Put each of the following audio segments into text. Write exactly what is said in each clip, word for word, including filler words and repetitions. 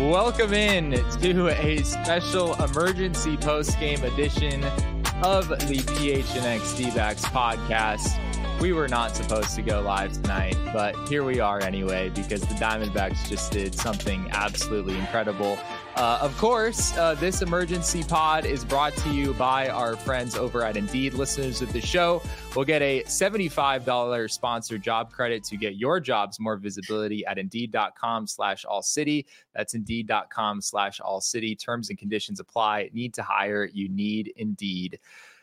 Welcome in to a special emergency post-game edition of the P H N X D-backs podcast. We were not supposed to go live tonight, but here we are anyway, because the Diamondbacks just did something absolutely incredible. Uh, of course, uh, this emergency pod is brought to you by our friends over at Indeed. Listeners of the show will get a seventy-five dollars sponsored job credit to get your jobs more visibility at Indeed.com slash All City. That's Indeed.com slash All City. Terms and conditions apply. Need to hire. You need Indeed.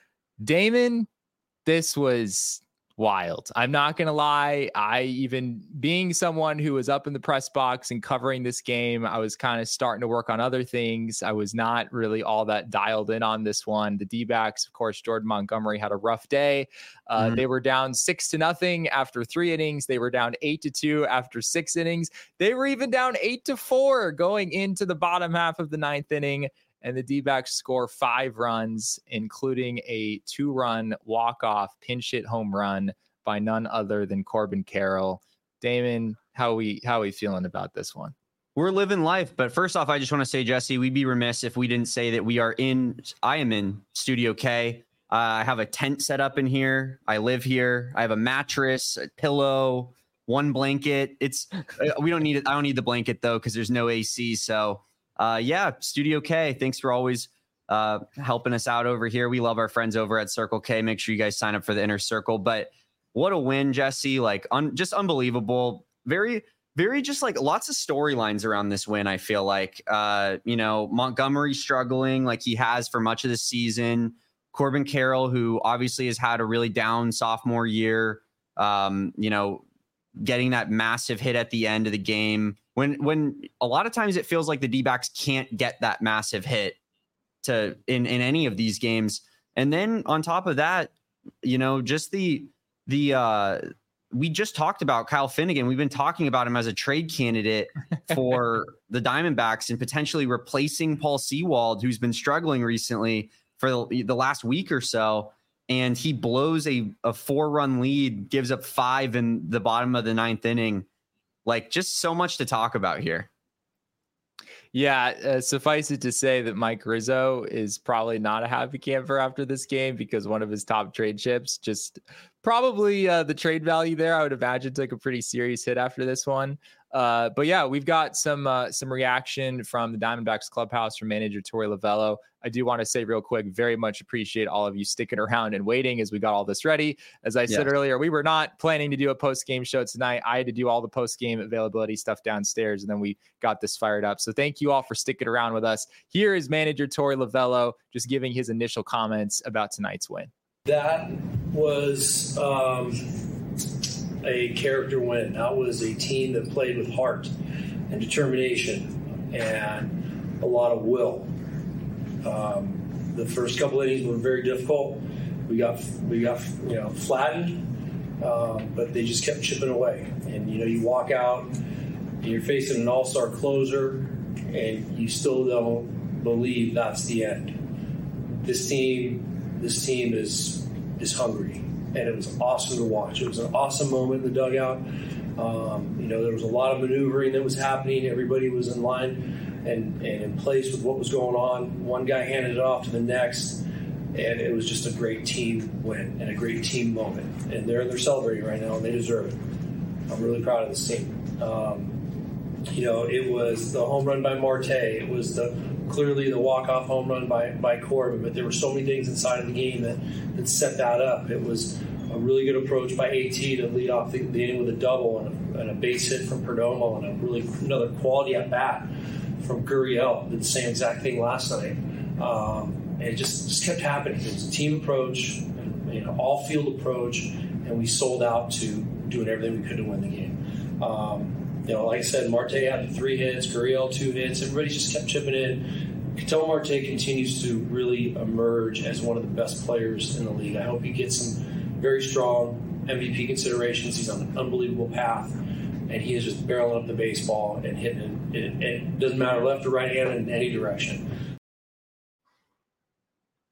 Damon, this was wild. I'm not going to lie. I even being someone who was up in the press box and covering this game, I was kind of starting to work on other things. I was not really all that dialed in on this one. The D-backs, of course, Jordan Montgomery had a rough day. Uh, mm-hmm. They were down six to nothing after three innings. They were down eight to two after six innings. They were even down eight to four going into the bottom half of the ninth inning. And the D-backs score five runs, including a two-run walk-off pinch hit home run by none other than Corbin Carroll. Damon, how we how we feeling about this one? We're living life. But first off, I just want to say, Jesse, we'd be remiss if we didn't say that we are in, I am in Studio K. Uh, I have a tent set up in here. I live here. I have a mattress, a pillow, one blanket. It's we don't need it. I don't need the blanket, though, because there's no A C. So Uh, yeah, Studio K, thanks for always uh, helping us out over here. We love our friends over at Circle K. Make sure you guys sign up for the Inner Circle. But what a win, Jesse. Like, un- just unbelievable. Very, very just like lots of storylines around this win, I feel like. Uh, you know, Montgomery struggling like he has for much of the season. Corbin Carroll, who obviously has had a really down sophomore year, um, you know, getting that massive hit at the end of the game. When when a lot of times it feels like the D-backs can't get that massive hit to in, in any of these games. And then on top of that, you know, just the the uh, we just talked about Kyle Finnegan. We've been talking about him as a trade candidate for the Diamondbacks and potentially replacing Paul Sewald, who's been struggling recently for the, the last week or so. And he blows a, a four run lead, gives up five in the bottom of the ninth inning. Like, just so much to talk about here. Yeah, uh, suffice it to say that Mike Rizzo is probably not a happy camper after this game because one of his top trade chips just probably uh, the trade value there, I would imagine, took a pretty serious hit after this one. Uh, but yeah, we've got some uh, some reaction from the Diamondbacks clubhouse from manager Torey Lovullo. I do want to say real quick, very much appreciate all of you sticking around and waiting as we got all this ready. As I yes. said earlier, we were not planning to do a post-game show tonight. I had to do all the post-game availability stuff downstairs, and then we got this fired up. So thank you all for sticking around with us. Here is manager Torey Lovullo just giving his initial comments about tonight's win. That was um, a character win. That was a team that played with heart and determination and a lot of will. Um, the first couple innings were very difficult. We got we got you know flattened, um, but they just kept chipping away. And you know you walk out and you're facing an all-star closer, and you still don't believe that's the end. This team, this team is is hungry, and it was awesome to watch. It was an awesome moment in the dugout. Um, you know there was a lot of maneuvering that was happening. Everybody was in line and, and in place with what was going on. One guy handed it off to the next, and it was just a great team win and a great team moment. And they're they're celebrating right now, and they deserve it. I'm really proud of this team. Um, you know, it was the home run by Marte. It was the clearly the walk-off home run by, by Corbin, but there were so many things inside of the game that, that set that up. It was a really good approach by AT to lead off the, the inning with a double and a, and a base hit from Perdomo and a really another quality at bat from Gurriel. Did the same exact thing last night. Um, and it just, just kept happening. It was a team approach, and, you know, all field approach, and we sold out to doing everything we could to win the game. Um, you know, like I said, Marte had the three hits, Gurriel two hits. Everybody just kept chipping in. Ketel Marte continues to really emerge as one of the best players in the league. I hope he gets some very strong M V P considerations. He's on an unbelievable path, and he is just barreling up the baseball and hitting it. It, it doesn't matter left or right hand in any direction.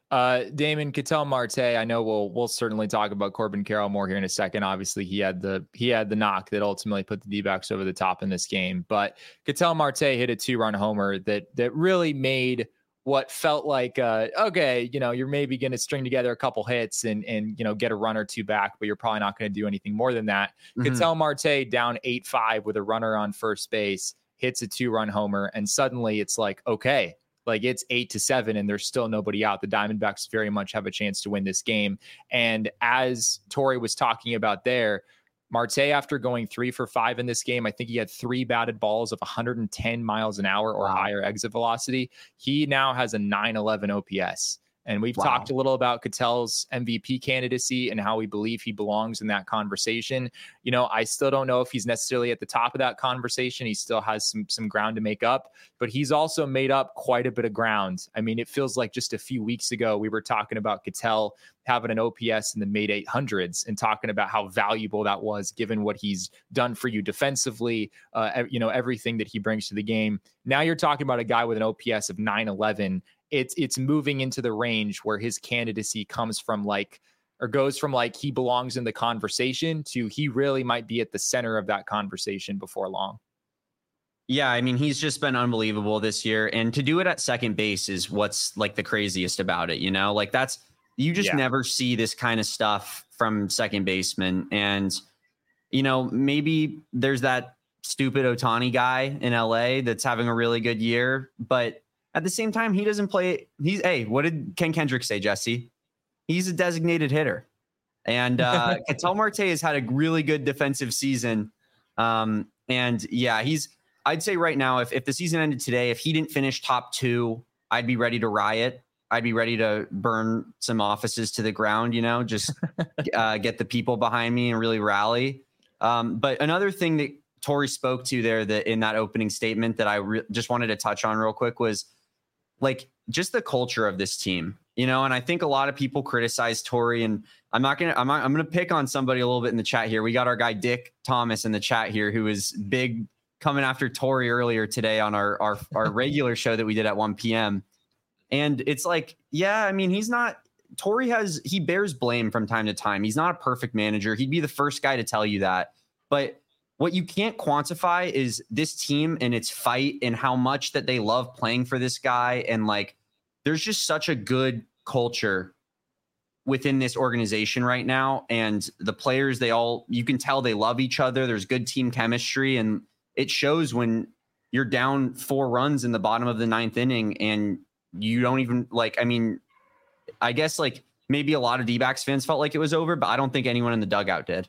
Uh, Damon, Ketel Marte, I know we'll we'll certainly talk about Corbin Carroll more here in a second. Obviously, he had the he had the knock that ultimately put the D-backs over the top in this game. But Ketel Marte hit a two-run homer that that really made what felt like, uh, okay, you know, you're maybe going to string together a couple hits and and you know get a run or two back, but you're probably not going to do anything more than that. Mm-hmm. Ketel Marte down eight five with a runner on first base, hits a two-run homer, and suddenly it's like, okay. Like it's eight to seven and there's still nobody out. The Diamondbacks very much have a chance to win this game. And as Torey was talking about there, Marte, after going three for five in this game, I think he had three batted balls of one hundred ten miles an hour or wow. higher exit velocity. He now has a nine eleven O P S. And we've wow. talked a little about Ketel's M V P candidacy and how we believe he belongs in that conversation. You know, I still don't know if he's necessarily at the top of that conversation. He still has some some ground to make up, but he's also made up quite a bit of ground. I mean, it feels like just a few weeks ago, we were talking about Ketel having an O P S in the mid eight hundreds and talking about how valuable that was given what he's done for you defensively, uh, you know, everything that he brings to the game. Now you're talking about a guy with an O P S of nine eleven. It's it's moving into the range where his candidacy comes from like, or goes from like he belongs in the conversation to he really might be at the center of that conversation before long. Yeah, I mean, he's just been unbelievable this year. And to do it at second base is what's like the craziest about it, you know, like that's, you just yeah. never see this kind of stuff from second baseman. And, you know, maybe there's that stupid Ohtani guy in L A that's having a really good year, but at the same time, he doesn't play. He's, hey, what did Ken Kendrick say, Jesse? He's a designated hitter. And uh, Ketel Marte has had a really good defensive season. Um, and yeah, he's, I'd say right now, if, if the season ended today, if he didn't finish top two, I'd be ready to riot. I'd be ready to burn some offices to the ground, you know, just uh, get the people behind me and really rally. Um, but another thing that Torey spoke to there that in that opening statement that I re- just wanted to touch on real quick was like just the culture of this team, you know, and I think a lot of people criticize Torey, and I'm not going to, I'm not, I'm going to pick on somebody a little bit in the chat here. We got our guy, Dick Thomas in the chat here, who is big coming after Torey earlier today on our, our, our regular show that we did at one p.m. And it's like, yeah, I mean, he's not, Torey has, he bears blame from time to time. He's not a perfect manager. He'd be the first guy to tell you that, but what you can't quantify is this team and its fight and how much that they love playing for this guy. And like, there's just such a good culture within this organization right now. And the players, they all, you can tell they love each other. There's good team chemistry, and it shows when you're down four runs in the bottom of the ninth inning and you don't even like, I mean, I guess like maybe a lot of D-backs fans felt like it was over, but I don't think anyone in the dugout did.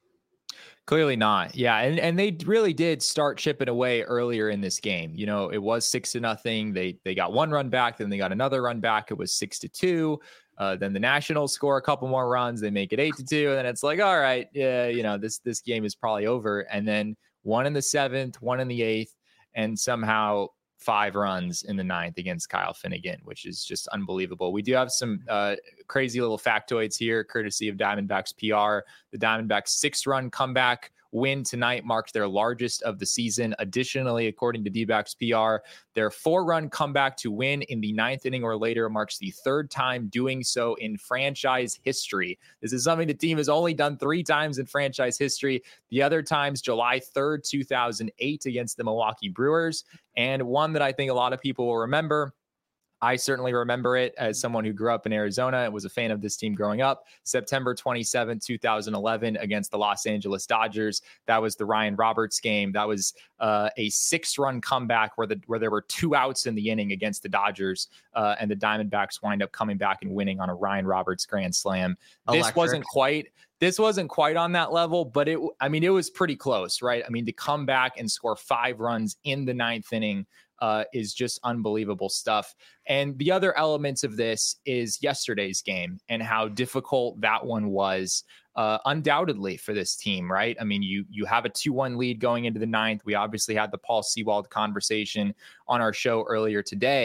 Clearly not. Yeah. And, and they really did start chipping away earlier in this game. You know, it was six to nothing. They, they got one run back, then they got another run back. It was six to two. Uh, then the Nationals score a couple more runs. They make it eight to two. And then it's like, all right, yeah, you know, this, this game is probably over. And then one in the seventh, one in the eighth, and somehow five runs in the ninth against Kyle Finnegan, which is just unbelievable. We do have some uh, crazy little factoids here, courtesy of Diamondbacks P R. The Diamondbacks six-run comeback win tonight marked their largest of the season. Additionally, according to D-backs P R, their four-run comeback to win in the ninth inning or later marks the third time doing so in franchise history. This is something the team has only done three times in franchise history. The other times, July third, two thousand eight against the Milwaukee Brewers, and one that I think a lot of people will remember. I certainly remember it as someone who grew up in Arizona and was a fan of this team growing up. September twenty-seventh, twenty eleven against the Los Angeles Dodgers. That was the Ryan Roberts game. that was uh, a six-run comeback where the where there were two outs in the inning against the Dodgers, uh, and the Diamondbacks wind up coming back and winning on a Ryan Roberts grand slam. Electric. This wasn't quite This wasn't quite on that level, but it, I mean, it was pretty close, right? I mean, to come back and score five runs in the ninth inning uh, is just unbelievable stuff. And the other elements of this is yesterday's game and how difficult that one was, uh, undoubtedly for this team, right? I mean, you you have a two one lead going into the ninth. We obviously had the Paul Sewald conversation on our show earlier today.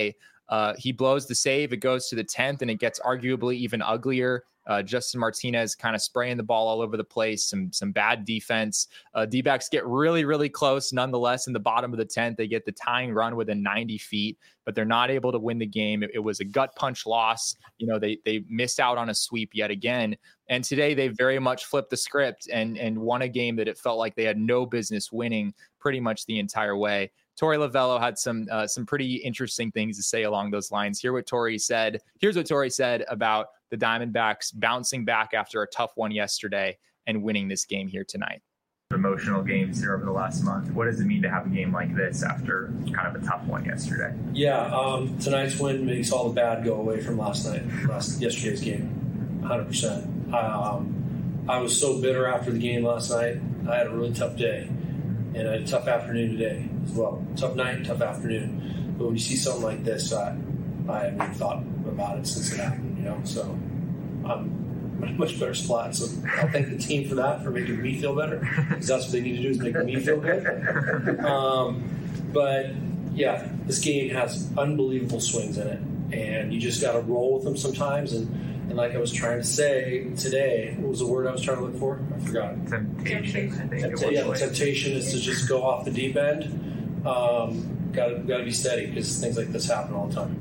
Uh, he blows the save. It goes to the tenth, and it gets arguably even uglier. Uh, Justin Martinez kind of spraying the ball all over the place, some some bad defense. Uh, D-backs get really, really close. Nonetheless, in the bottom of the tenth, they get the tying run within ninety feet, but they're not able to win the game. It, it was a gut punch loss. You know, they they missed out on a sweep yet again. And today they very much flipped the script and and won a game that it felt like they had no business winning pretty much the entire way. Torey Lovullo had some uh, some pretty interesting things to say along those lines. Hear what Torey said. Here's what Torey said about the Diamondbacks bouncing back after a tough one yesterday and winning this game here tonight. Emotional games here over the last month. What does it mean to have a game like this after kind of a tough one yesterday? Yeah, um, tonight's win makes all the bad go away from last night, last yesterday's game, one hundred percent. Um, I was so bitter after the game last night. I had a really tough day, and I had a tough afternoon today as well. Tough night, tough afternoon. But when you see something like this, I, I haven't even thought about it since it happened, you know. So I'm in a much better spot. So I'll thank the team for that, for making me feel better, because that's what they need to do, is make me feel good. Um, but yeah, this game has unbelievable swings in it, and you just got to roll with them sometimes. And, and like I was trying to say today, what was the word I was trying to look for? I forgot. Temptation. I think Tempt- yeah, the temptation is to just go off the deep end. Um, got got to be steady, because things like this happen all the time.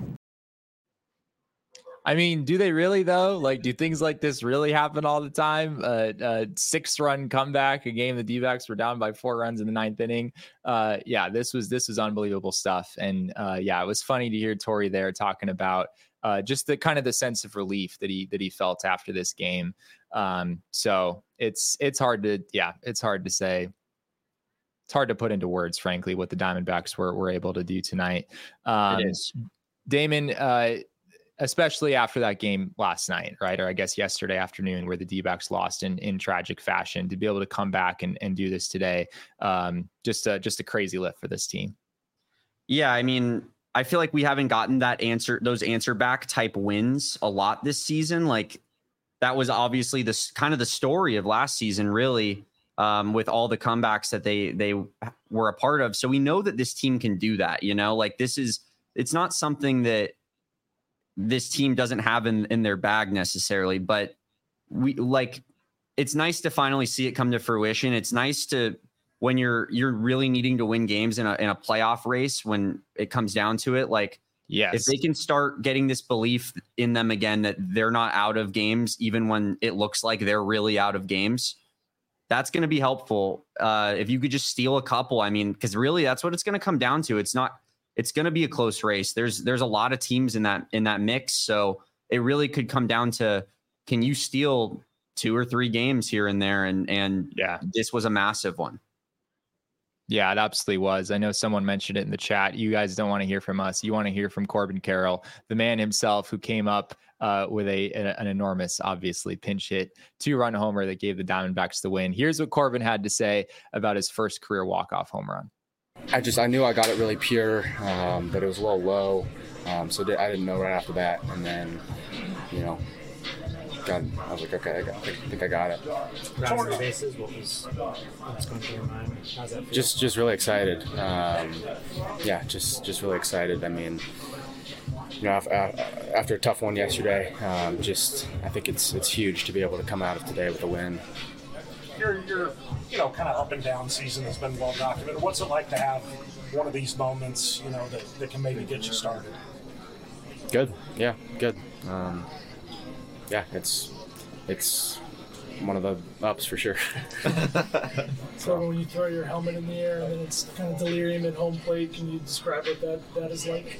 I mean, do they really though? Like, do things like this really happen all the time? Uh, uh six run comeback, a game the D-backs were down by four runs in the ninth inning. Uh, yeah, this was this was unbelievable stuff. And uh, yeah, it was funny to hear Torey there talking about uh, just the kind of the sense of relief that he that he felt after this game. Um, so it's it's hard to yeah, it's hard to say. It's hard to put into words, frankly, what the Diamondbacks were were able to do tonight. Um, It is. Damon. Uh, especially after that game last night, right? Or I guess yesterday afternoon, where the D-backs lost in, in tragic fashion, to be able to come back and, and do this today. Um, just a, just a crazy lift for this team. Yeah. I mean, I feel like we haven't gotten that answer, those answer back type wins a lot this season. Like that was obviously this kind of the story of last season, really, um, with all the comebacks that they, they were a part of. So we know that this team can do that, you know, like this is, it's not something that this team doesn't have in, in their bag necessarily, but we like, it's nice to finally see it come to fruition. It's nice to, when you're, you're really needing to win games in a, in a playoff race, when it comes down to it, like, yes, if they can start getting this belief in them again, that they're not out of games, even when it looks like they're really out of games, that's going to be helpful. Uh, if you could just steal a couple, I mean, cause really that's what it's going to come down to. It's not, It's going to be a close race. There's there's a lot of teams in that in that mix, so it really could come down to, can you steal two or three games here and there? And and yeah, this was a massive one. Yeah, it absolutely was. I know someone mentioned it in the chat. You guys don't want to hear from us. You want to hear from Corbin Carroll, the man himself, who came up uh, with a, a an enormous, obviously, pinch hit two-run homer that gave the Diamondbacks the win. Here's what Corbin had to say about his first career walk-off home run. I just, I knew I got it really pure, um, but it was a little low. Um, so I didn't know right after that. And then, you know, got, I was like, okay, I, got, I think I got it. Rounds the bases, what was, what's going through your mind? How's that feel? Just, just really excited. Um, yeah, just, just really excited. I mean, you know, after a tough one yesterday, um, just, I think it's, it's huge to be able to come out of today with a win. Your, your, you know, kind of up and down season has been well documented. What's it like to have one of these moments, you know, that, that can maybe get you started? Good. Yeah, good. Um, yeah, it's it's one of the ups for sure. So when you throw your helmet in the air and then it's kind of delirium at home plate, can you describe what that, that is like?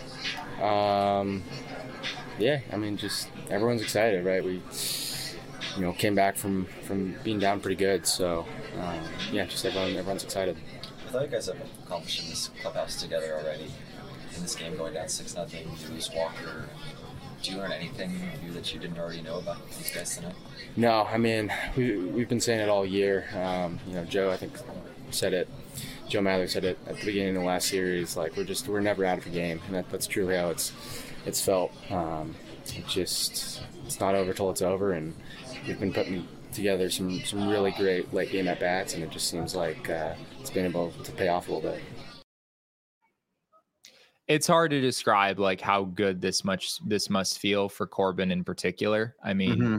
Um, yeah, I mean, just everyone's excited, right? We, you know, came back from, from being down pretty good. So, um, yeah, just everyone, everyone's excited. I thought you guys have accomplished in this clubhouse together already. In this game going down six nothing, you lose Walker. Did you learn anything new that you didn't already know about these guys tonight? No, I mean, we, we've been saying it all year. Um, you know, Joe, I think, said it. Joe Mather said it at the beginning of the last series. Like, we're just, we're never out of a game. And that, that's truly how it's, it's felt. Um, it just, it's not over till it's over. And we've been putting together some, some really great late game at bats, and it just seems like uh, it's been able to pay off a little bit. It's hard to describe like how good this much this must feel for Corbin in particular. I mean, mm-hmm.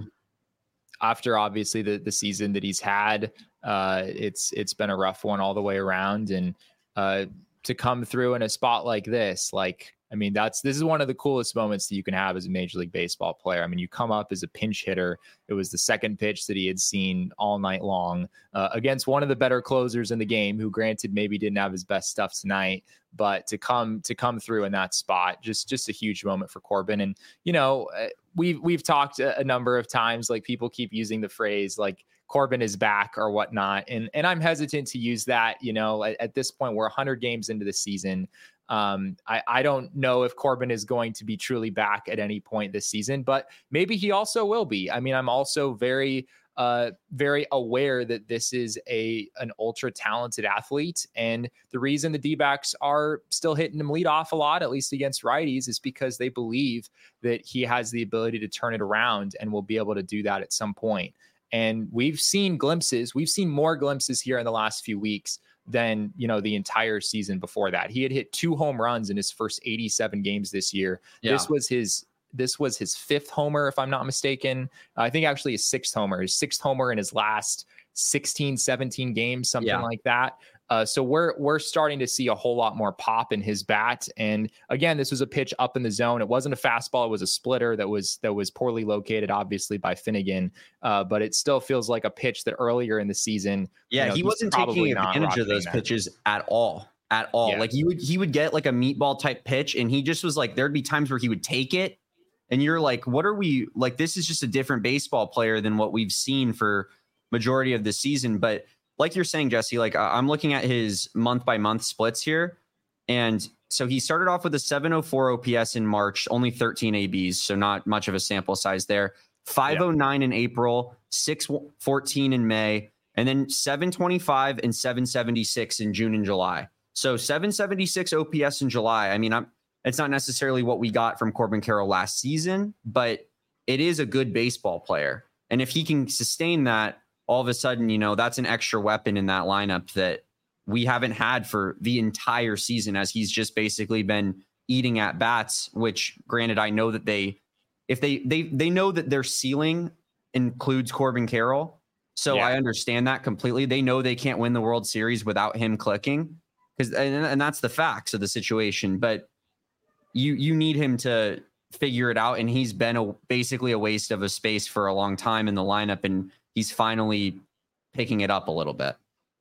after obviously the the season that he's had, uh, it's it's been a rough one all the way around, and uh, to come through in a spot like this, like. I mean, that's this is one of the coolest moments that you can have as a Major League Baseball player. I mean, you come up as a pinch hitter. It was the second pitch that he had seen all night long uh, against one of the better closers in the game, who granted maybe didn't have his best stuff tonight, but to come to come through in that spot, just just a huge moment for Corbin. And, you know, we've we've talked a, a number of times, like people keep using the phrase like Corbin is back or whatnot. And, and I'm hesitant to use that, you know, at, at this point, we're one hundred games into the season. Um, I, I don't know if Corbin is going to be truly back at any point this season, but maybe he also will be. I mean, I'm also very, uh, very aware that this is a an ultra talented athlete. And the reason the D-backs are still hitting him lead off a lot, at least against righties, is because they believe that he has the ability to turn it around and will be able to do that at some point. And we've seen glimpses, we've seen more glimpses here in the last few weeks than, you know, the entire season before that. He had hit two home runs in his first eighty-seven games this year. Yeah. This was his, this was his fifth homer, if I'm not mistaken. I think actually his sixth homer, his sixth homer in his last sixteen, seventeen games, something yeah. like that. Uh, so we're we're starting to see a whole lot more pop in his bat. And again, this was a pitch up in the zone. It wasn't a fastball; it was a splitter that was that was poorly located, obviously by Finnegan. Uh, but it still feels like a pitch that earlier in the season, yeah, you know, he wasn't taking advantage of those that. pitches at all, at all. Yeah. Like he would he would get like a meatball type pitch, and he just was like, there'd be times where he would take it, and you're like, what are we like? This is just a different baseball player than what we've seen for majority of the season, but. Like you're saying, Jesse, like I'm looking at his month by month splits here. And so he started off with a seven oh four O P S in March, only thirteen A Bs. So not much of a sample size there. five oh nine yeah. in April, six fourteen in May, and then seven twenty-five and seven seventy-six in June and July. So seven seventy-six O P S in July. I mean, I'm, it's not necessarily what we got from Corbin Carroll last season, but it is a good baseball player. And if he can sustain that, all of a sudden, you know, that's an extra weapon in that lineup that we haven't had for the entire season, as he's just basically been eating at bats, which granted, I know that they, if they, they, they know that their ceiling includes Corbin Carroll. So yeah. I understand that completely. They know they can't win the World Series without him clicking, because, and, and that's the facts of the situation, but you, you need him to figure it out. And he's been a, basically a waste of a space for a long time in the lineup. And he's finally picking it up a little bit.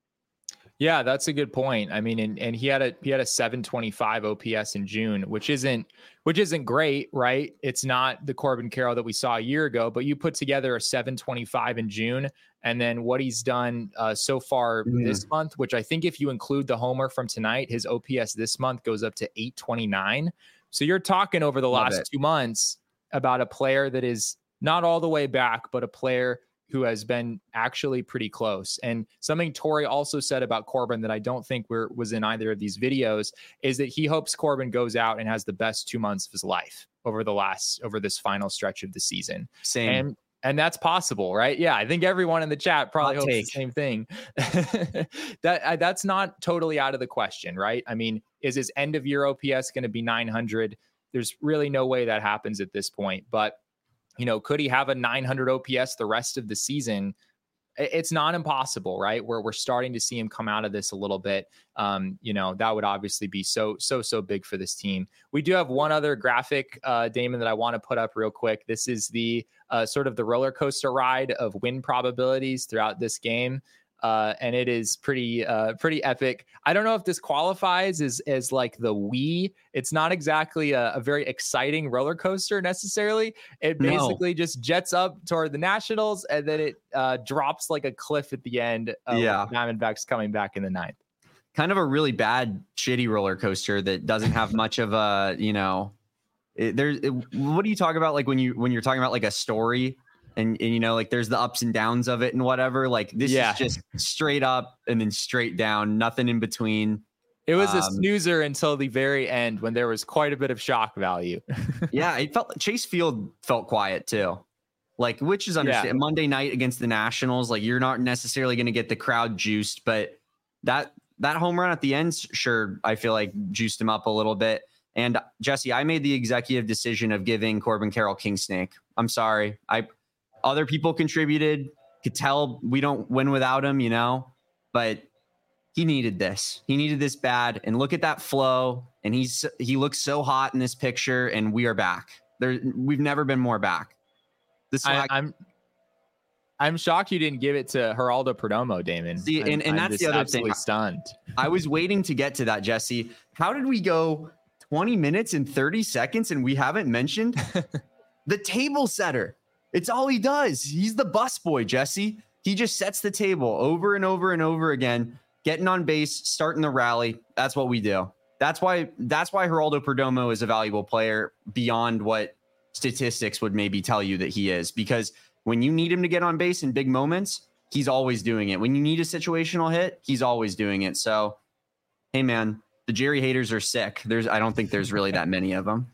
Yeah, that's a good point. I mean, and, and he had a he had a seven twenty-five O P S in June, which isn't which isn't great, right? It's not the Corbin Carroll that we saw a year ago, but you put together a seven twenty-five in June, and then what he's done uh, so far mm. this month, which I think if you include the homer from tonight, his O P S this month goes up to eight twenty-nine. So you're talking over the Love last it. two months about a player that is not all the way back, but a player who has been actually pretty close. And something Torey also said about Corbin that I don't think we're, was in either of these videos is that he hopes Corbin goes out and has the best two months of his life over the last, over this final stretch of the season. Same. And, and that's possible, right? Yeah. I think everyone in the chat probably hopes the same thing. that that's not totally out of the question, right? I mean, is his end of year O P S going to be nine hundred? There's really no way that happens at this point, but you know, could he have a nine hundred O P S the rest of the season? It's not impossible, right? Where we're starting to see him come out of this a little bit. Um, you know, that would obviously be so, so, so big for this team. We do have one other graphic, uh, Damon, that I want to put up real quick. This is the uh, sort of the roller coaster ride of win probabilities throughout this game. Uh, and it is pretty, uh, pretty epic. I don't know if this qualifies as, as like the Wii. It's not exactly a, a very exciting roller coaster necessarily. It basically no. just jets up toward the Nationals, and then it uh, drops like a cliff at the end. Of yeah, Diamondbacks coming back in the ninth. Kind of a really bad, shitty roller coaster that doesn't have much of a, you know, it, there's. It, what do you talk about? Like when you when you're talking about like a story. And, and, you know, like there's the ups and downs of it and whatever. Like this yeah. is just straight up and then straight down, nothing in between. It was um, a snoozer until the very end when there was quite a bit of shock value. yeah, it felt Chase Field felt quiet too. Like, which is understandable. Yeah. Monday night against the Nationals, like you're not necessarily going to get the crowd juiced, but that that home run at the end, sure, I feel like juiced him up a little bit. And Jesse, I made the executive decision of giving Corbin Carroll King Snake. I'm sorry. I other people contributed. Could tell we don't win without him, you know, but he needed this. He needed this bad. And look at that flow. And he's he looks so hot in this picture. And we are back. There, we've never been more back. This I, I'm I'm shocked you didn't give it to Geraldo Perdomo, Damon. See, and, and I'm that's the other thing. Stunned. I was waiting to get to that, Jesse. How did we go twenty minutes and thirty seconds and we haven't mentioned the table setter? It's all he does. He's the bus boy, Jesse. He just sets the table over and over and over again, getting on base, starting the rally. That's what we do. That's why that's why Geraldo Perdomo is a valuable player beyond what statistics would maybe tell you that he is, because when you need him to get on base in big moments, he's always doing it. When you need a situational hit, he's always doing it. So, hey, man, the Jerry haters are sick. There's, I don't think there's really that many of them.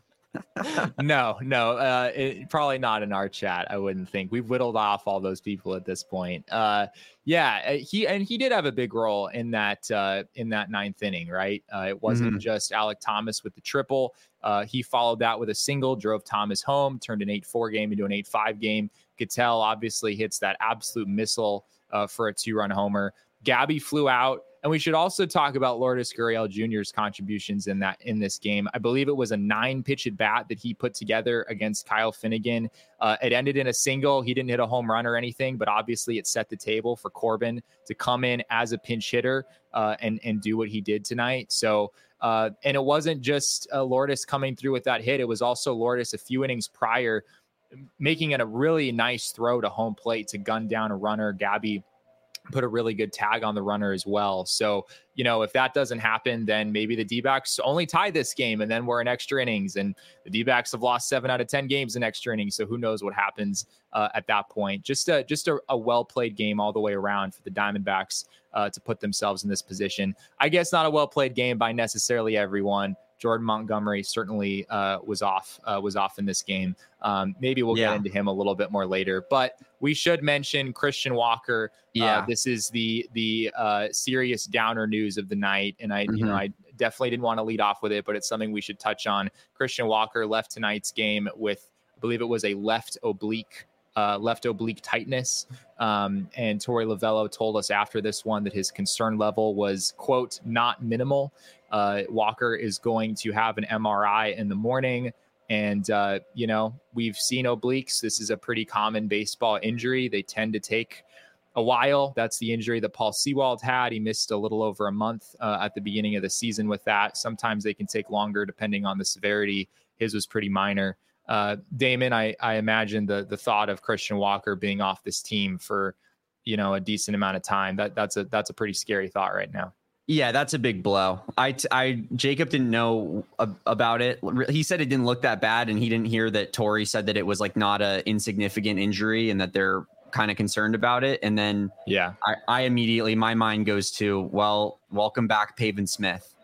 no, no, uh, it, probably not in our chat. I wouldn't think. We've whittled off all those people at this point. Uh, yeah, he and he did have a big role in that uh, in that ninth inning, right? Uh, it wasn't mm-hmm. just Alek Thomas with the triple. Uh, he followed that with a single, drove Thomas home, turned an eight four game into an eight five game. Gattel obviously hits that absolute missile uh, for a two-run homer. Gabby flew out. And we should also talk about Lourdes Gurriel Junior's contributions in that in this game. I believe it was a nine-pitch at bat that he put together against Kyle Finnegan. Uh, it ended in a single. He didn't hit a home run or anything, but obviously it set the table for Corbin to come in as a pinch hitter uh, and and do what he did tonight. So, uh, and it wasn't just uh, Lourdes coming through with that hit. It was also Lourdes a few innings prior making it a really nice throw to home plate to gun down a runner. Gabby put a really good tag on the runner as well. So, you know, if that doesn't happen, then maybe the D-backs only tie this game and then we're in extra innings, and the D-backs have lost seven out of ten games in extra innings. So who knows what happens uh, at that point. Just a, just a, a well-played game all the way around for the Diamondbacks uh, to put themselves in this position. I guess not a well-played game by necessarily everyone. Jordan Montgomery certainly uh, was off uh, was off in this game. Um, maybe we'll yeah. get into him a little bit more later, but we should mention Christian Walker. Yeah, uh, this is the the uh, serious downer news of the night, and I mm-hmm. you know I definitely didn't want to lead off with it, but it's something we should touch on. Christian Walker left tonight's game with, I believe it was a left oblique. Uh, left oblique tightness. Um, and Torey Lovullo told us after this one that his concern level was, quote, not minimal. Uh, Walker is going to have an M R I in the morning. And, uh, you know, we've seen obliques. This is a pretty common baseball injury. They tend to take a while. That's the injury that Paul Sewald had. He missed a little over a month uh, at the beginning of the season with that. Sometimes they can take longer depending on the severity. His was pretty minor. Uh, Damon, I, I imagine the the thought of Christian Walker being off this team for, you know, a decent amount of time, that that's a that's a pretty scary thought right now. Yeah, that's a big blow. I, I Jacob didn't know ab- about it. He said it didn't look that bad, and he didn't hear that Torey said that it was like not a insignificant injury and that they're kind of concerned about it. And then yeah, I, I immediately my mind goes to, well, welcome back, Pavin Smith.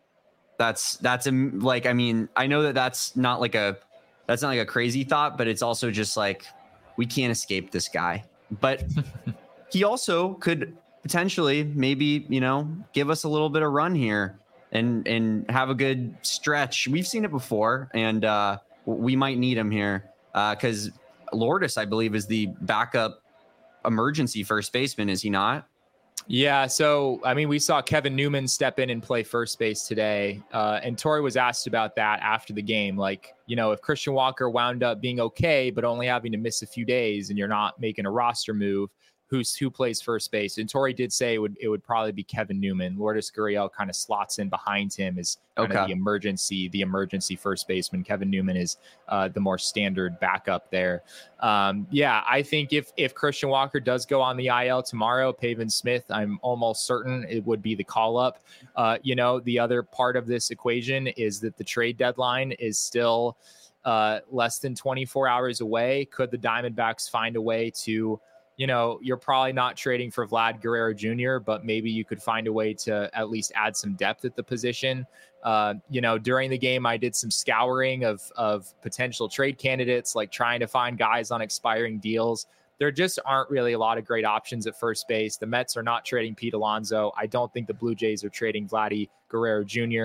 That's that's a, like I mean I know that that's not like a That's not like a crazy thought, but it's also just like, we can't escape this guy. But he also could potentially maybe, you know, give us a little bit of run here and and have a good stretch. We've seen it before, and uh, we might need him here because uh, Lourdes, I believe, is the backup emergency first baseman, is he not? Yeah, so, I mean, we saw Kevin Newman step in and play first base today, uh, and Torey was asked about that after the game. Like, you know, if Christian Walker wound up being okay, but only having to miss a few days and you're not making a roster move, who's who plays first base? And Torey did say it would it would probably be Kevin Newman. Lourdes Gurriel kind of slots in behind him as kind okay. of the emergency, the emergency first baseman. Kevin Newman is uh, the more standard backup there. Um, yeah, I think if if Christian Walker does go on the I L tomorrow, Pavin Smith, I'm almost certain it would be the call up. Uh, you know, the other part of this equation is that the trade deadline is still uh, less than twenty-four hours away. Could the Diamondbacks find a way to, you know, you're probably not trading for Vlad Guerrero Junior, but maybe you could find a way to at least add some depth at the position. Uh, you know, during the game, I did some scouring of, of potential trade candidates, like trying to find guys on expiring deals. There just aren't really a lot of great options at first base. The Mets are not trading Pete Alonso. I don't think the Blue Jays are trading Vladdy Guerrero Junior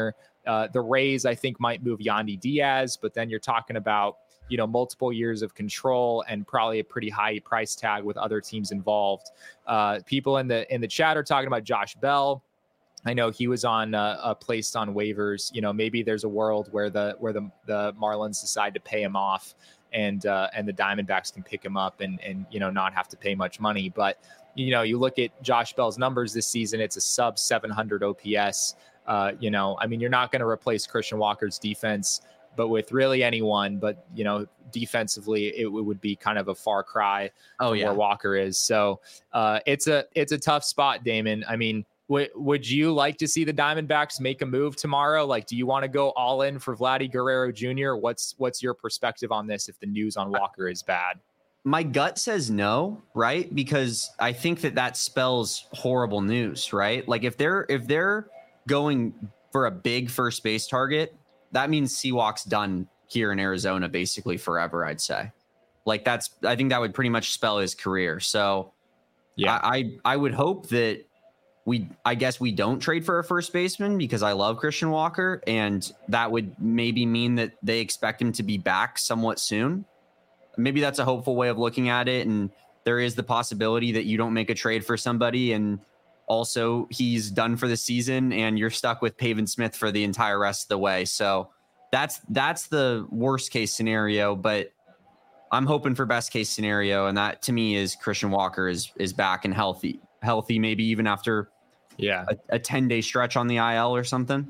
Uh, the Rays, I think, might move Yandy Diaz, but then you're talking about, you know, multiple years of control and probably a pretty high price tag with other teams involved. Uh, people in the in the chat are talking about Josh Bell. I know he was on uh, uh, placed on waivers. You know, maybe there's a world where the where the the Marlins decide to pay him off, and uh, and the Diamondbacks can pick him up and and you know not have to pay much money. But you know, you look at Josh Bell's numbers this season; it's a sub seven hundred O P S. Uh, you know, I mean, you're not going to replace Christian Walker's defense, but with really anyone, but you know, defensively, it, it would be kind of a far cry oh, from yeah. where Walker is. So uh, it's a it's a tough spot, Damon. I mean, w- would you like to see the Diamondbacks make a move tomorrow? Like, do you want to go all in for Vladdy Guerrero Junior? What's what's your perspective on this if the news on Walker is bad? My gut says no, right? Because I think that that spells horrible news, right? Like if they're if they're going for a big first base target, that means Seawalk's done here in Arizona basically forever, I'd say. Like that's, I think that would pretty much spell his career. So yeah, I, I, I would hope that we, I guess we don't trade for a first baseman because I love Christian Walker, and that would maybe mean that they expect him to be back somewhat soon. Maybe that's a hopeful way of looking at it. And there is the possibility that you don't make a trade for somebody and also he's done for the season and you're stuck with Pavin Smith for the entire rest of the way. So that's, that's the worst case scenario, but I'm hoping for best case scenario. And that to me is Christian Walker is, is back and healthy, healthy, maybe even after yeah, a, a ten day stretch on the I L or something.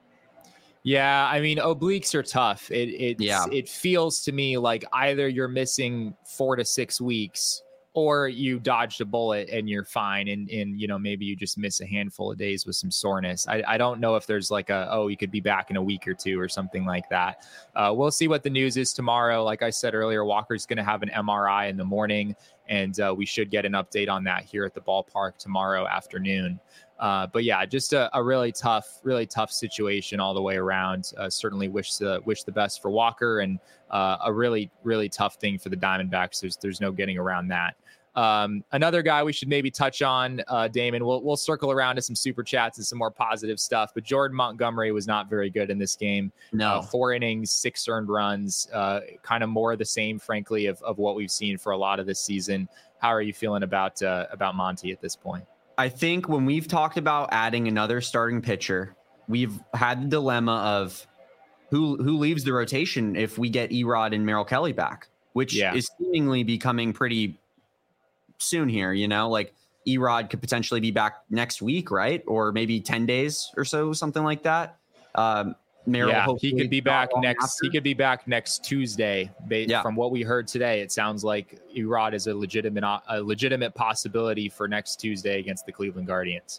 Yeah. I mean, obliques are tough. It, it, yeah. it feels to me like either you're missing four to six weeks or you dodged a bullet and you're fine. And, and, you know, maybe you just miss a handful of days with some soreness. I, I don't know if there's like a, oh, you could be back in a week or two or something like that. Uh, we'll see what the news is tomorrow. Like I said earlier, Walker's going to have an M R I in the morning, and uh, we should get an update on that here at the ballpark tomorrow afternoon. Uh, but yeah, just a, a really tough, really tough situation all the way around. Uh, certainly wish the wish the best for Walker, and uh, a really, really tough thing for the Diamondbacks. There's there's no getting around that. Um, another guy we should maybe touch on, uh, Damon. We'll we'll circle around to some super chats and some more positive stuff. But Jordan Montgomery was not very good in this game. No, uh, four innings, six earned runs, uh, kind of more of the same, frankly, of of what we've seen for a lot of this season. How are you feeling about uh, about Monty at this point? I think when we've talked about adding another starting pitcher, we've had the dilemma of who who leaves the rotation if we get Erod and Merrill Kelly back, which yeah. is seemingly becoming pretty soon here. You know, like Erod could potentially be back next week, right? Or maybe ten days or so, something like that. Um, Merrill, yeah, he could be back next. After. He could be back next Tuesday. Ba- yeah. From what we heard today, it sounds like Erod is a legitimate, a legitimate possibility for next Tuesday against the Cleveland Guardians.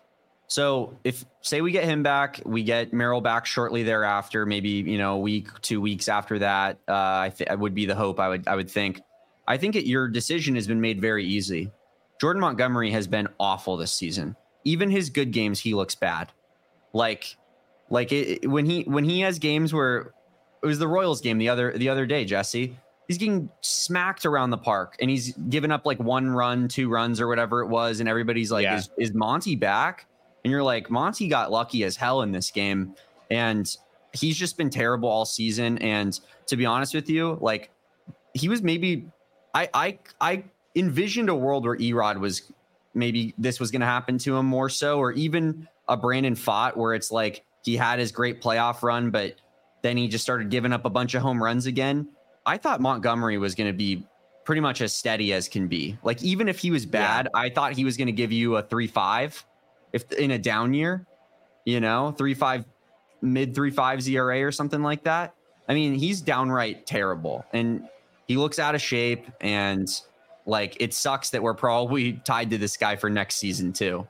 So if say we get him back, we get Merrill back shortly thereafter, maybe you know a week, two weeks after that. Uh, I think it would be the hope. I would, I would think. I think it, your decision has been made very easy. Jordan Montgomery has been awful this season. Even his good games, he looks bad. Like. Like it, when he when he has games where it was the Royals game the other the other day, Jesse, he's getting smacked around the park and he's given up like one run, two runs or whatever it was. And everybody's like, yeah. is, is Monty back? And you're like, Monty got lucky as hell in this game. And he's just been terrible all season. And to be honest with you, like he was maybe I I, I envisioned a world where Erod was maybe this was going to happen to him more so, or even a Brandon Pfaadt where it's like, he had his great playoff run, but then he just started giving up a bunch of home runs again. I thought Montgomery was going to be pretty much as steady as can be. Like, even if he was bad, yeah. I thought he was going to give you a three five if in a down year, you know, three five, mid three fives E R A or something like that. I mean, he's downright terrible, and he looks out of shape, and like, it sucks that we're probably tied to this guy for next season too.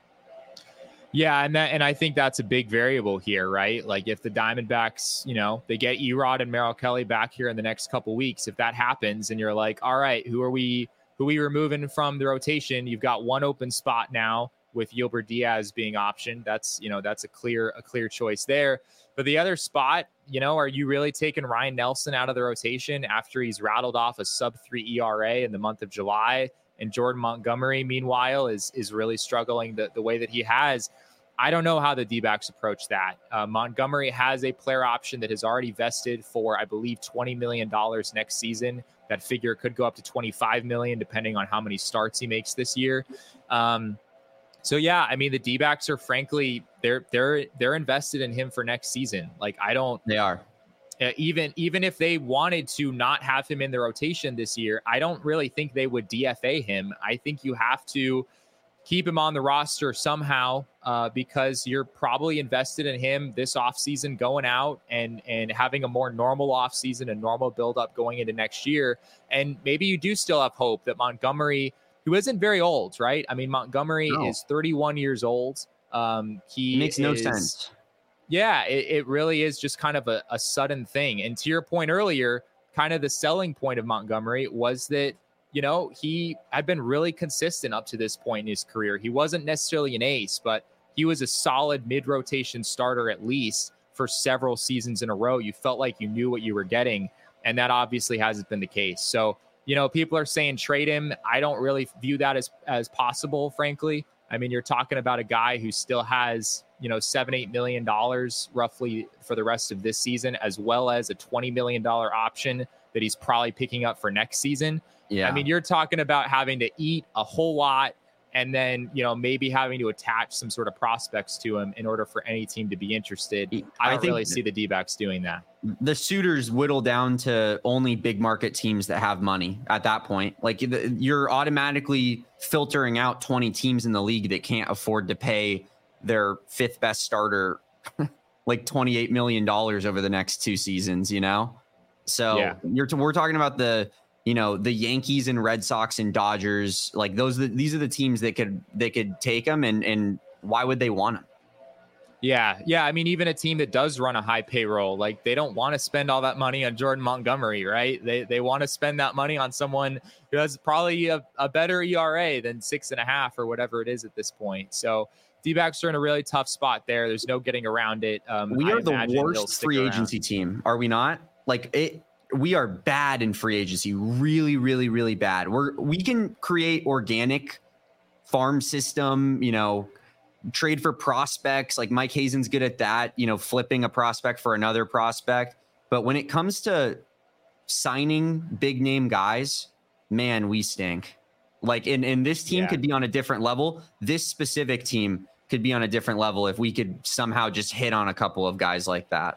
Yeah, and that, and I think that's a big variable here, right? Like if the Diamondbacks, you know, they get Erod and Merrill Kelly back here in the next couple weeks, if that happens and you're like, all right, who are we who are we removing from the rotation? You've got one open spot now with Gilbert Diaz being optioned. That's, you know, that's a clear a clear choice there. But the other spot, you know, are you really taking Ryan Nelson out of the rotation after he's rattled off a sub three E R A in the month of July? And Jordan Montgomery, meanwhile, is is really struggling the, the way that he has. I don't know how the D-backs approach that. Uh, Montgomery has a player option that has already vested for, I believe, twenty million dollars next season. That figure could go up to twenty-five million dollars depending on how many starts he makes this year. Um, so yeah, I mean, the D-backs are frankly, they're they're they're invested in him for next season. Like I don't, they are. Uh, even even if they wanted to not have him in the rotation this year, I don't really think they would D F A him. I think you have to keep him on the roster somehow uh, because you're probably invested in him this offseason going out and and having a more normal offseason, a normal buildup going into next year. And maybe you do still have hope that Montgomery, who isn't very old, right? I mean, Montgomery No. is thirty-one years old. Um, he It makes no is, sense. Yeah, it, it really is just kind of a, a sudden thing. And to your point earlier, kind of the selling point of Montgomery was that, you know, he had been really consistent up to this point in his career. He wasn't necessarily an ace, but he was a solid mid-rotation starter at least for several seasons in a row. You felt like you knew what you were getting, and that obviously hasn't been the case. So, you know, people are saying trade him. I don't really view that as, as possible, frankly. I mean, you're talking about a guy who still has, you know, seven, eight million dollars roughly for the rest of this season, as well as a twenty million dollars option that he's probably picking up for next season. Yeah. I mean, you're talking about having to eat a whole lot and then, you know, maybe having to attach some sort of prospects to him in order for any team to be interested. I don't I think really see the D-backs doing that. The suitors whittle down to only big market teams that have money at that point. Like the, you're automatically filtering out twenty teams in the league that can't afford to pay their fifth best starter like twenty-eight million dollars over the next two seasons, you know? So Yeah. you're t- we're talking about the, you know, the Yankees and Red Sox and Dodgers, like those, these are the teams that could, they could take them. And, and why would they want them? Yeah. Yeah. I mean, even a team that does run a high payroll, like they don't want to spend all that money on Jordan Montgomery, right? They they want to spend that money on someone who has probably a, a better E R A than six and a half or whatever it is at this point. So D-backs are in a really tough spot there. There's no getting around it. Um, We I are the imagine they'll worst stick free around. agency team, are we not? Like it, we are bad in free agency, really, really, really bad. We're we can create organic farm system, you know, trade for prospects. Like Mike Hazen's good at that, you know, flipping a prospect for another prospect. But when it comes to signing big name guys, man, we stink. Like, and, and this team Yeah. could be on a different level. This specific team could be on a different level if we could somehow just hit on a couple of guys like that.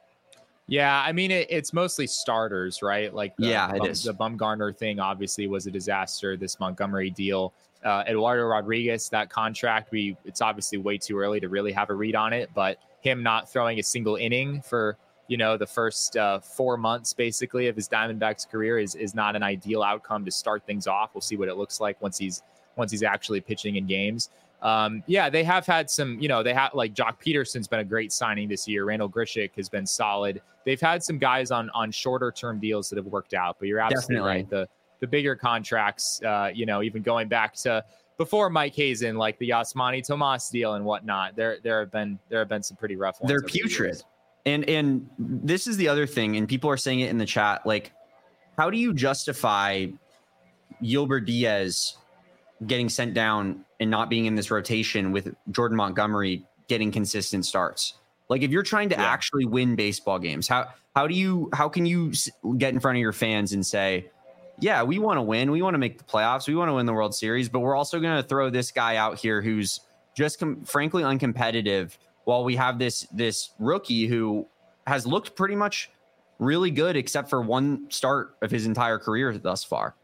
Yeah, I mean, it, it's mostly starters, right? Like, the, Yeah, it Bum- is. the Bumgarner thing obviously was a disaster. This Montgomery deal, uh, Eduardo Rodriguez, that contract, we it's obviously way too early to really have a read on it. But him not throwing a single inning for you know the first uh, four months basically of his Diamondbacks career is is not an ideal outcome to start things off. We'll see what it looks like once he's once he's actually pitching in games. Um, yeah, they have had some, you know, they have like Jock Peterson's been a great signing this year. Randall Grichuk has been solid. They've had some guys on on shorter term deals that have worked out, but you're absolutely Definitely. right. The the bigger contracts, uh, you know, even going back to before Mike Hazen, like the Yasmani Tomas deal and whatnot, there there have been there have been some pretty rough ones. They're over the putrid. years. And and this is the other thing, and people are saying it in the chat. Like, how do you justify Gilbert Diaz getting sent down and not being in this rotation with Jordan Montgomery getting consistent starts? Like, if you're trying to Yeah. actually win baseball games, how how do you how can you s- get in front of your fans and say, yeah, we want to win, we want to make the playoffs, we want to win the World Series, but we're also going to throw this guy out here who's just com- frankly uncompetitive, while we have this this rookie who has looked pretty much really good except for one start of his entire career thus far.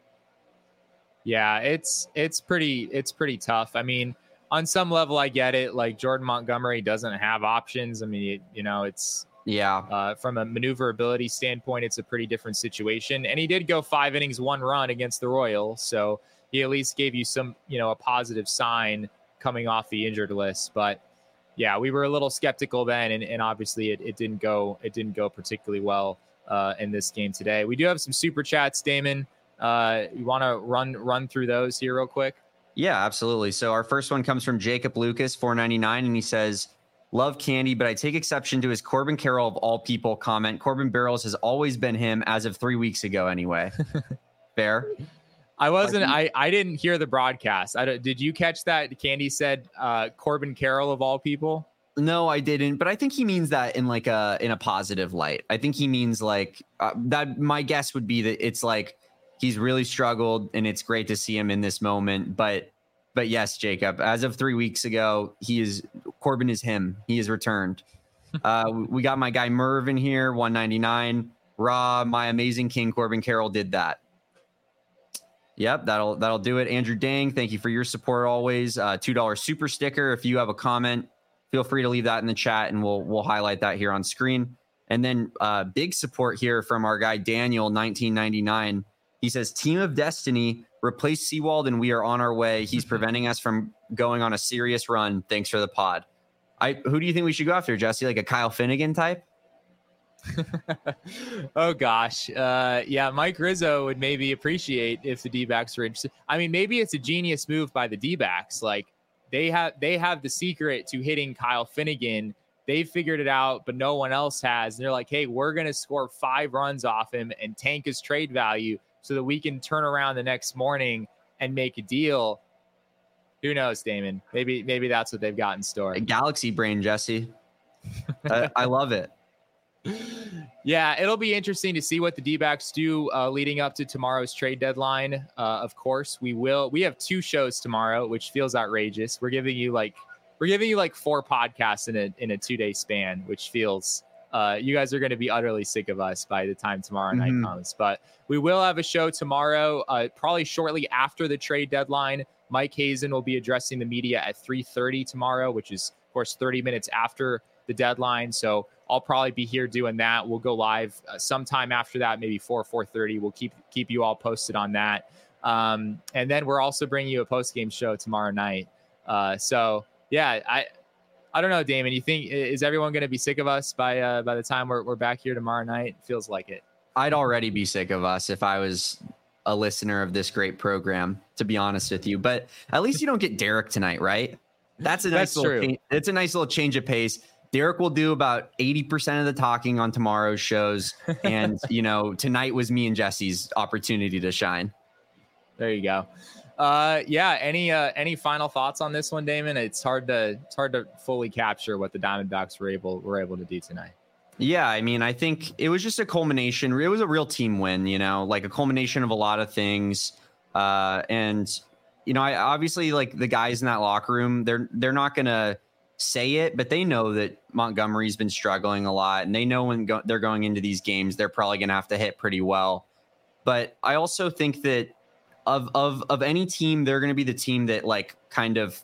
Yeah, it's it's pretty it's pretty tough. I mean, on some level, I get it. Like Jordan Montgomery doesn't have options. I mean, it, you know, it's Yeah. uh, from a maneuverability standpoint, it's a pretty different situation. And he did go five innings, one run against the Royals, so he at least gave you some, you know, a positive sign coming off the injured list. But yeah, we were a little skeptical then, and, and obviously it, it didn't go it didn't go particularly well uh, in this game today. We do have some super chats, Damon. Uh, you want to run run through those here real quick? Yeah, absolutely. So our first one comes from Jacob Lucas, four ninety-nine, and he says, love Candy, but I take exception to his Corbin Carroll of all people comment. Corbin Barrels has always been him as of three weeks ago anyway. Fair? I wasn't. I, I didn't hear the broadcast. I don't, did you catch that? Candy said uh, Corbin Carroll of all people. No, I didn't. But I think he means that in like a in a positive light. I think he means like uh, that. My guess would be that it's like he's really struggled, and it's great to see him in this moment. But but yes, Jacob, as of three weeks ago, he is Corbin is him. He has returned. uh, we got my guy Merv in here, one ninety-nine. Raw, my amazing king Corbin Carroll did that. Yep, that'll that'll do it. Andrew Dang, thank you for your support always. Uh, two dollar super sticker. If you have a comment, feel free to leave that in the chat, and we'll we'll highlight that here on screen. And then uh, big support here from our guy Daniel, nineteen ninety-nine. He says, "Team of Destiny, replace Seawald, and we are on our way. He's preventing us from going on a serious run. Thanks for the pod." I who do you think we should go after, Jesse? Like a Kyle Finnegan type? Oh gosh, uh, yeah, Mike Rizzo would maybe appreciate if the D-backs were interested. I mean, maybe it's a genius move by the D-backs. Like they have they have the secret to hitting Kyle Finnegan. They figured it out, but no one else has. And they're like, hey, we're gonna score five runs off him and tank his trade value so that we can turn around the next morning and make a deal. Who knows, Damon? Maybe maybe that's what they've got in store. A galaxy brain, Jesse. I, I love it. Yeah, it'll be interesting to see what the D-backs do uh, leading up to tomorrow's trade deadline. Uh, of course, we will. We have two shows tomorrow, which feels outrageous. We're giving you like we're giving you like four podcasts in a in a two day span, which feels uh, you guys are going to be utterly sick of us by the time tomorrow night mm-hmm. comes. But we will have a show tomorrow, uh, probably shortly after the trade deadline. Mike Hazen will be addressing the media at three thirty tomorrow, which is of course thirty minutes after the deadline. So I'll probably be here doing that. We'll go live uh, sometime after that, maybe four, four thirty. We'll keep keep you all posted on that. Um, and then we're also bringing you a post-game show tomorrow night. Uh, so, yeah, I I don't know, Damon. You think, is everyone going to be sick of us by uh, by the time we're, we're back here tomorrow night? Feels like it. I'd already be sick of us if I was a listener of this great program, to be honest with you. But at least you don't get Derek tonight, right? That's a nice That's little true. Change, it's a nice little change of pace. Derek will do about eighty percent of the talking on tomorrow's shows. And, you know, tonight was me and Jesse's opportunity to shine. There you go. Uh, yeah. Any, uh, any final thoughts on this one, Damon? It's hard to, it's hard to fully capture what the Diamondbacks were able, were able to do tonight. Yeah. I mean, I think it was just a culmination. It was a real team win, you know, like a culmination of a lot of things. Uh, and, you know, I obviously like the guys in that locker room, they're, they're not going to say it, but they know that Montgomery's been struggling a lot, and they know when go- they're going into these games, they're probably going to have to hit pretty well. But I also think that of of of any team, they're going to be the team that like kind of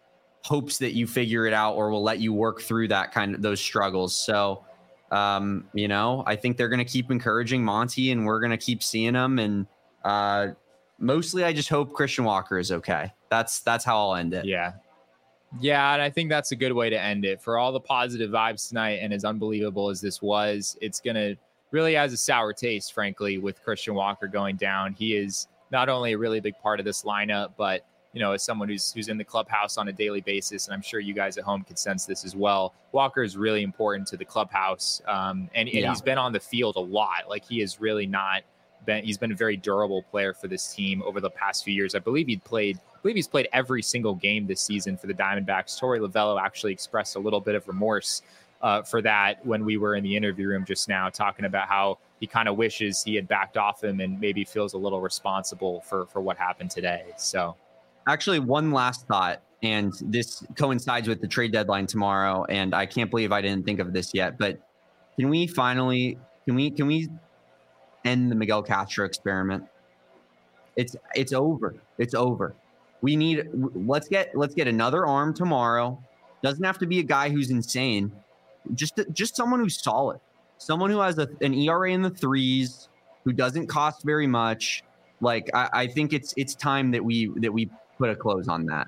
hopes that you figure it out or will let you work through that kind of those struggles. So, um, you know, I think they're going to keep encouraging Monty, and we're going to keep seeing them. And uh, mostly, I just hope Christian Walker is okay. That's that's how I'll end it. Yeah. Yeah, and I think that's a good way to end it. For all the positive vibes tonight, and as unbelievable as this was, it's going to really has a sour taste, frankly, with Christian Walker going down. He is not only a really big part of this lineup, but, you know, as someone who's who's in the clubhouse on a daily basis, and I'm sure you guys at home can sense this as well, Walker is really important to the clubhouse, um, and, and yeah. he's been on the field a lot. Like, he is really not been, he's been a very durable player for this team over the past few years. I believe he'd played I believe he's played every single game this season for the Diamondbacks. Torey Lovello actually expressed a little bit of remorse uh, for that when we were in the interview room just now, talking about how he kind of wishes he had backed off him and maybe feels a little responsible for, for what happened today. So actually one last thought, and this coincides with the trade deadline tomorrow. And I can't believe I didn't think of this yet, but can we finally, can we, can we end the Miguel Castro experiment? It's, it's over. It's over. We need, let's get, let's get another arm tomorrow. Doesn't have to be a guy who's insane. Just, just someone who's solid. Someone who has a, an E R A in the threes, who doesn't cost very much. Like, I, I think it's, it's time that we, that we put a close on that.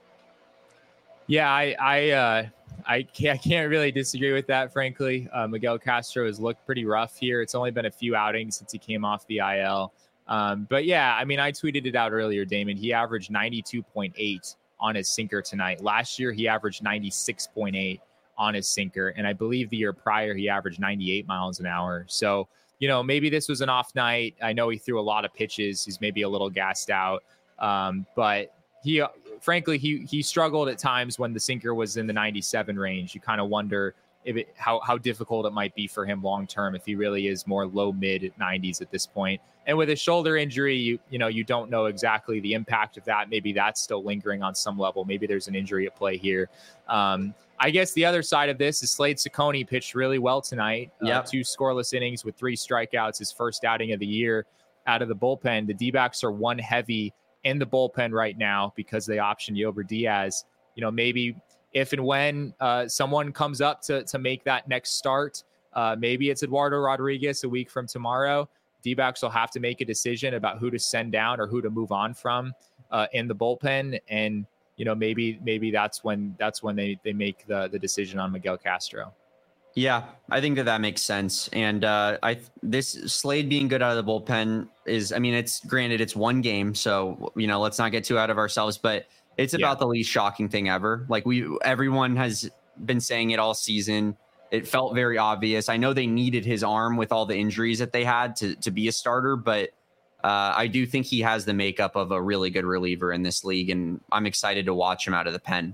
Yeah, I, I, uh, I can't, I can't really disagree with that, frankly. Uh, Miguel Castro has looked pretty rough here. It's only been a few outings since he came off the I L. Um, but yeah, I mean, I tweeted it out earlier, Damon. He averaged ninety-two point eight on his sinker tonight. Last year, he averaged ninety-six point eight on his sinker. And I believe the year prior, he averaged ninety-eight miles an hour. So you know, maybe this was an off night. I know he threw a lot of pitches. He's maybe a little gassed out. Um, but he, frankly, he he struggled at times when the sinker was in the ninety-seven range. You kind of wonder if it, how how difficult it might be for him long term if he really is more low mid nineties at this point. And with a shoulder injury, you you know you don't know exactly the impact of that. Maybe that's still lingering on some level. Maybe there's an injury at play here. Um, I guess the other side of this is Slade Cecconi pitched really well tonight. Yep. Uh, two scoreless innings with three strikeouts, his first outing of the year out of the bullpen. The D-backs are one heavy in the bullpen right now because they optioned Yober Diaz. You know, maybe if and when uh, someone comes up to to make that next start, uh, maybe it's Eduardo Rodriguez a week from tomorrow. D-backs will have to make a decision about who to send down or who to move on from uh, in the bullpen. And, you know, maybe maybe that's when that's when they, they make the, the decision on Miguel Castro. Yeah, I think that that makes sense. And uh, I this Slade being good out of the bullpen is, I mean, it's granted it's one game. So, you know, let's not get too out of ourselves, but it's about yeah. the least shocking thing ever. Like we everyone has been saying it all season. It felt very obvious. I know they needed his arm with all the injuries that they had to, to be a starter, but uh, I do think he has the makeup of a really good reliever in this league, and I'm excited to watch him out of the pen.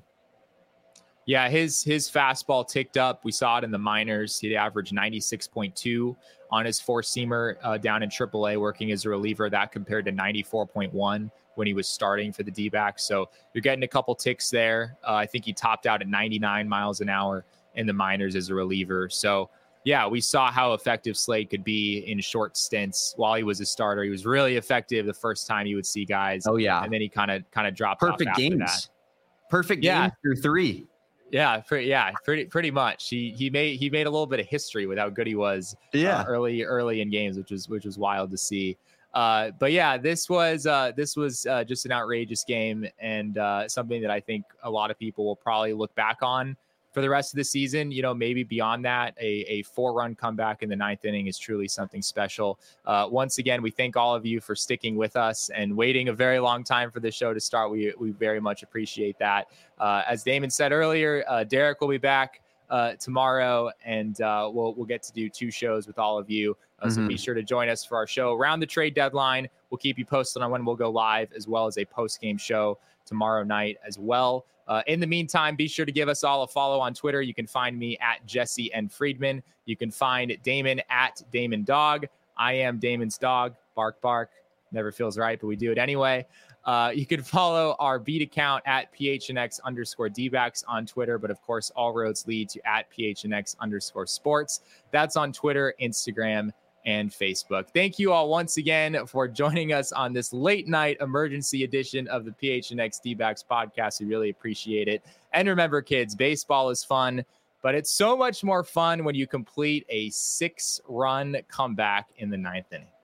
Yeah, his his fastball ticked up. We saw it in the minors. He averaged ninety-six point two on his four-seamer uh, down in triple A working as a reliever. That compared to ninety-four point one when he was starting for the D-backs. So you're getting a couple ticks there. Uh, I think he topped out at ninety-nine miles an hour in the minors as a reliever. So yeah, we saw how effective Slade could be in short stints while he was a starter. He was really effective the first time you would see guys. Oh yeah. And then he kind of, kind of dropped perfect off after games. That. Perfect yeah. games through three. Yeah. Pretty, yeah. Pretty, pretty much. He, he made, he made a little bit of history with how good he was yeah. uh, early, early in games, which was, which was wild to see. Uh, but yeah, this was, uh, this was uh, just an outrageous game and uh, something that I think a lot of people will probably look back on for the rest of the season. You know, maybe beyond that, a, a four run comeback in the ninth inning is truly something special. Uh, once again, we thank all of you for sticking with us and waiting a very long time for the show to start. We, we very much appreciate that. Uh, as Damon said earlier, uh, Derek will be back uh, tomorrow and uh, we'll, we'll get to do two shows with all of you. Uh, so mm-hmm. be sure to join us for our show around the trade deadline. We'll keep you posted on when we'll go live, as well as a post-game show tomorrow night as well. Uh, in the meantime, be sure to give us all a follow on Twitter. You can find me at Jesse N. Friedman. You can find Damon at Damon Dog. I am Damon's dog. Bark, bark. Never feels right, but we do it anyway. Uh, you can follow our beat account at PHNX underscore D-backs on Twitter. But of course, all roads lead to at PHNX underscore sports. That's on Twitter, Instagram, and Facebook. Thank you all once again for joining us on this late night emergency edition of the P H N X D-backs podcast. We really appreciate it. And remember, kids, baseball is fun, but it's so much more fun when you complete a six run comeback in the ninth inning.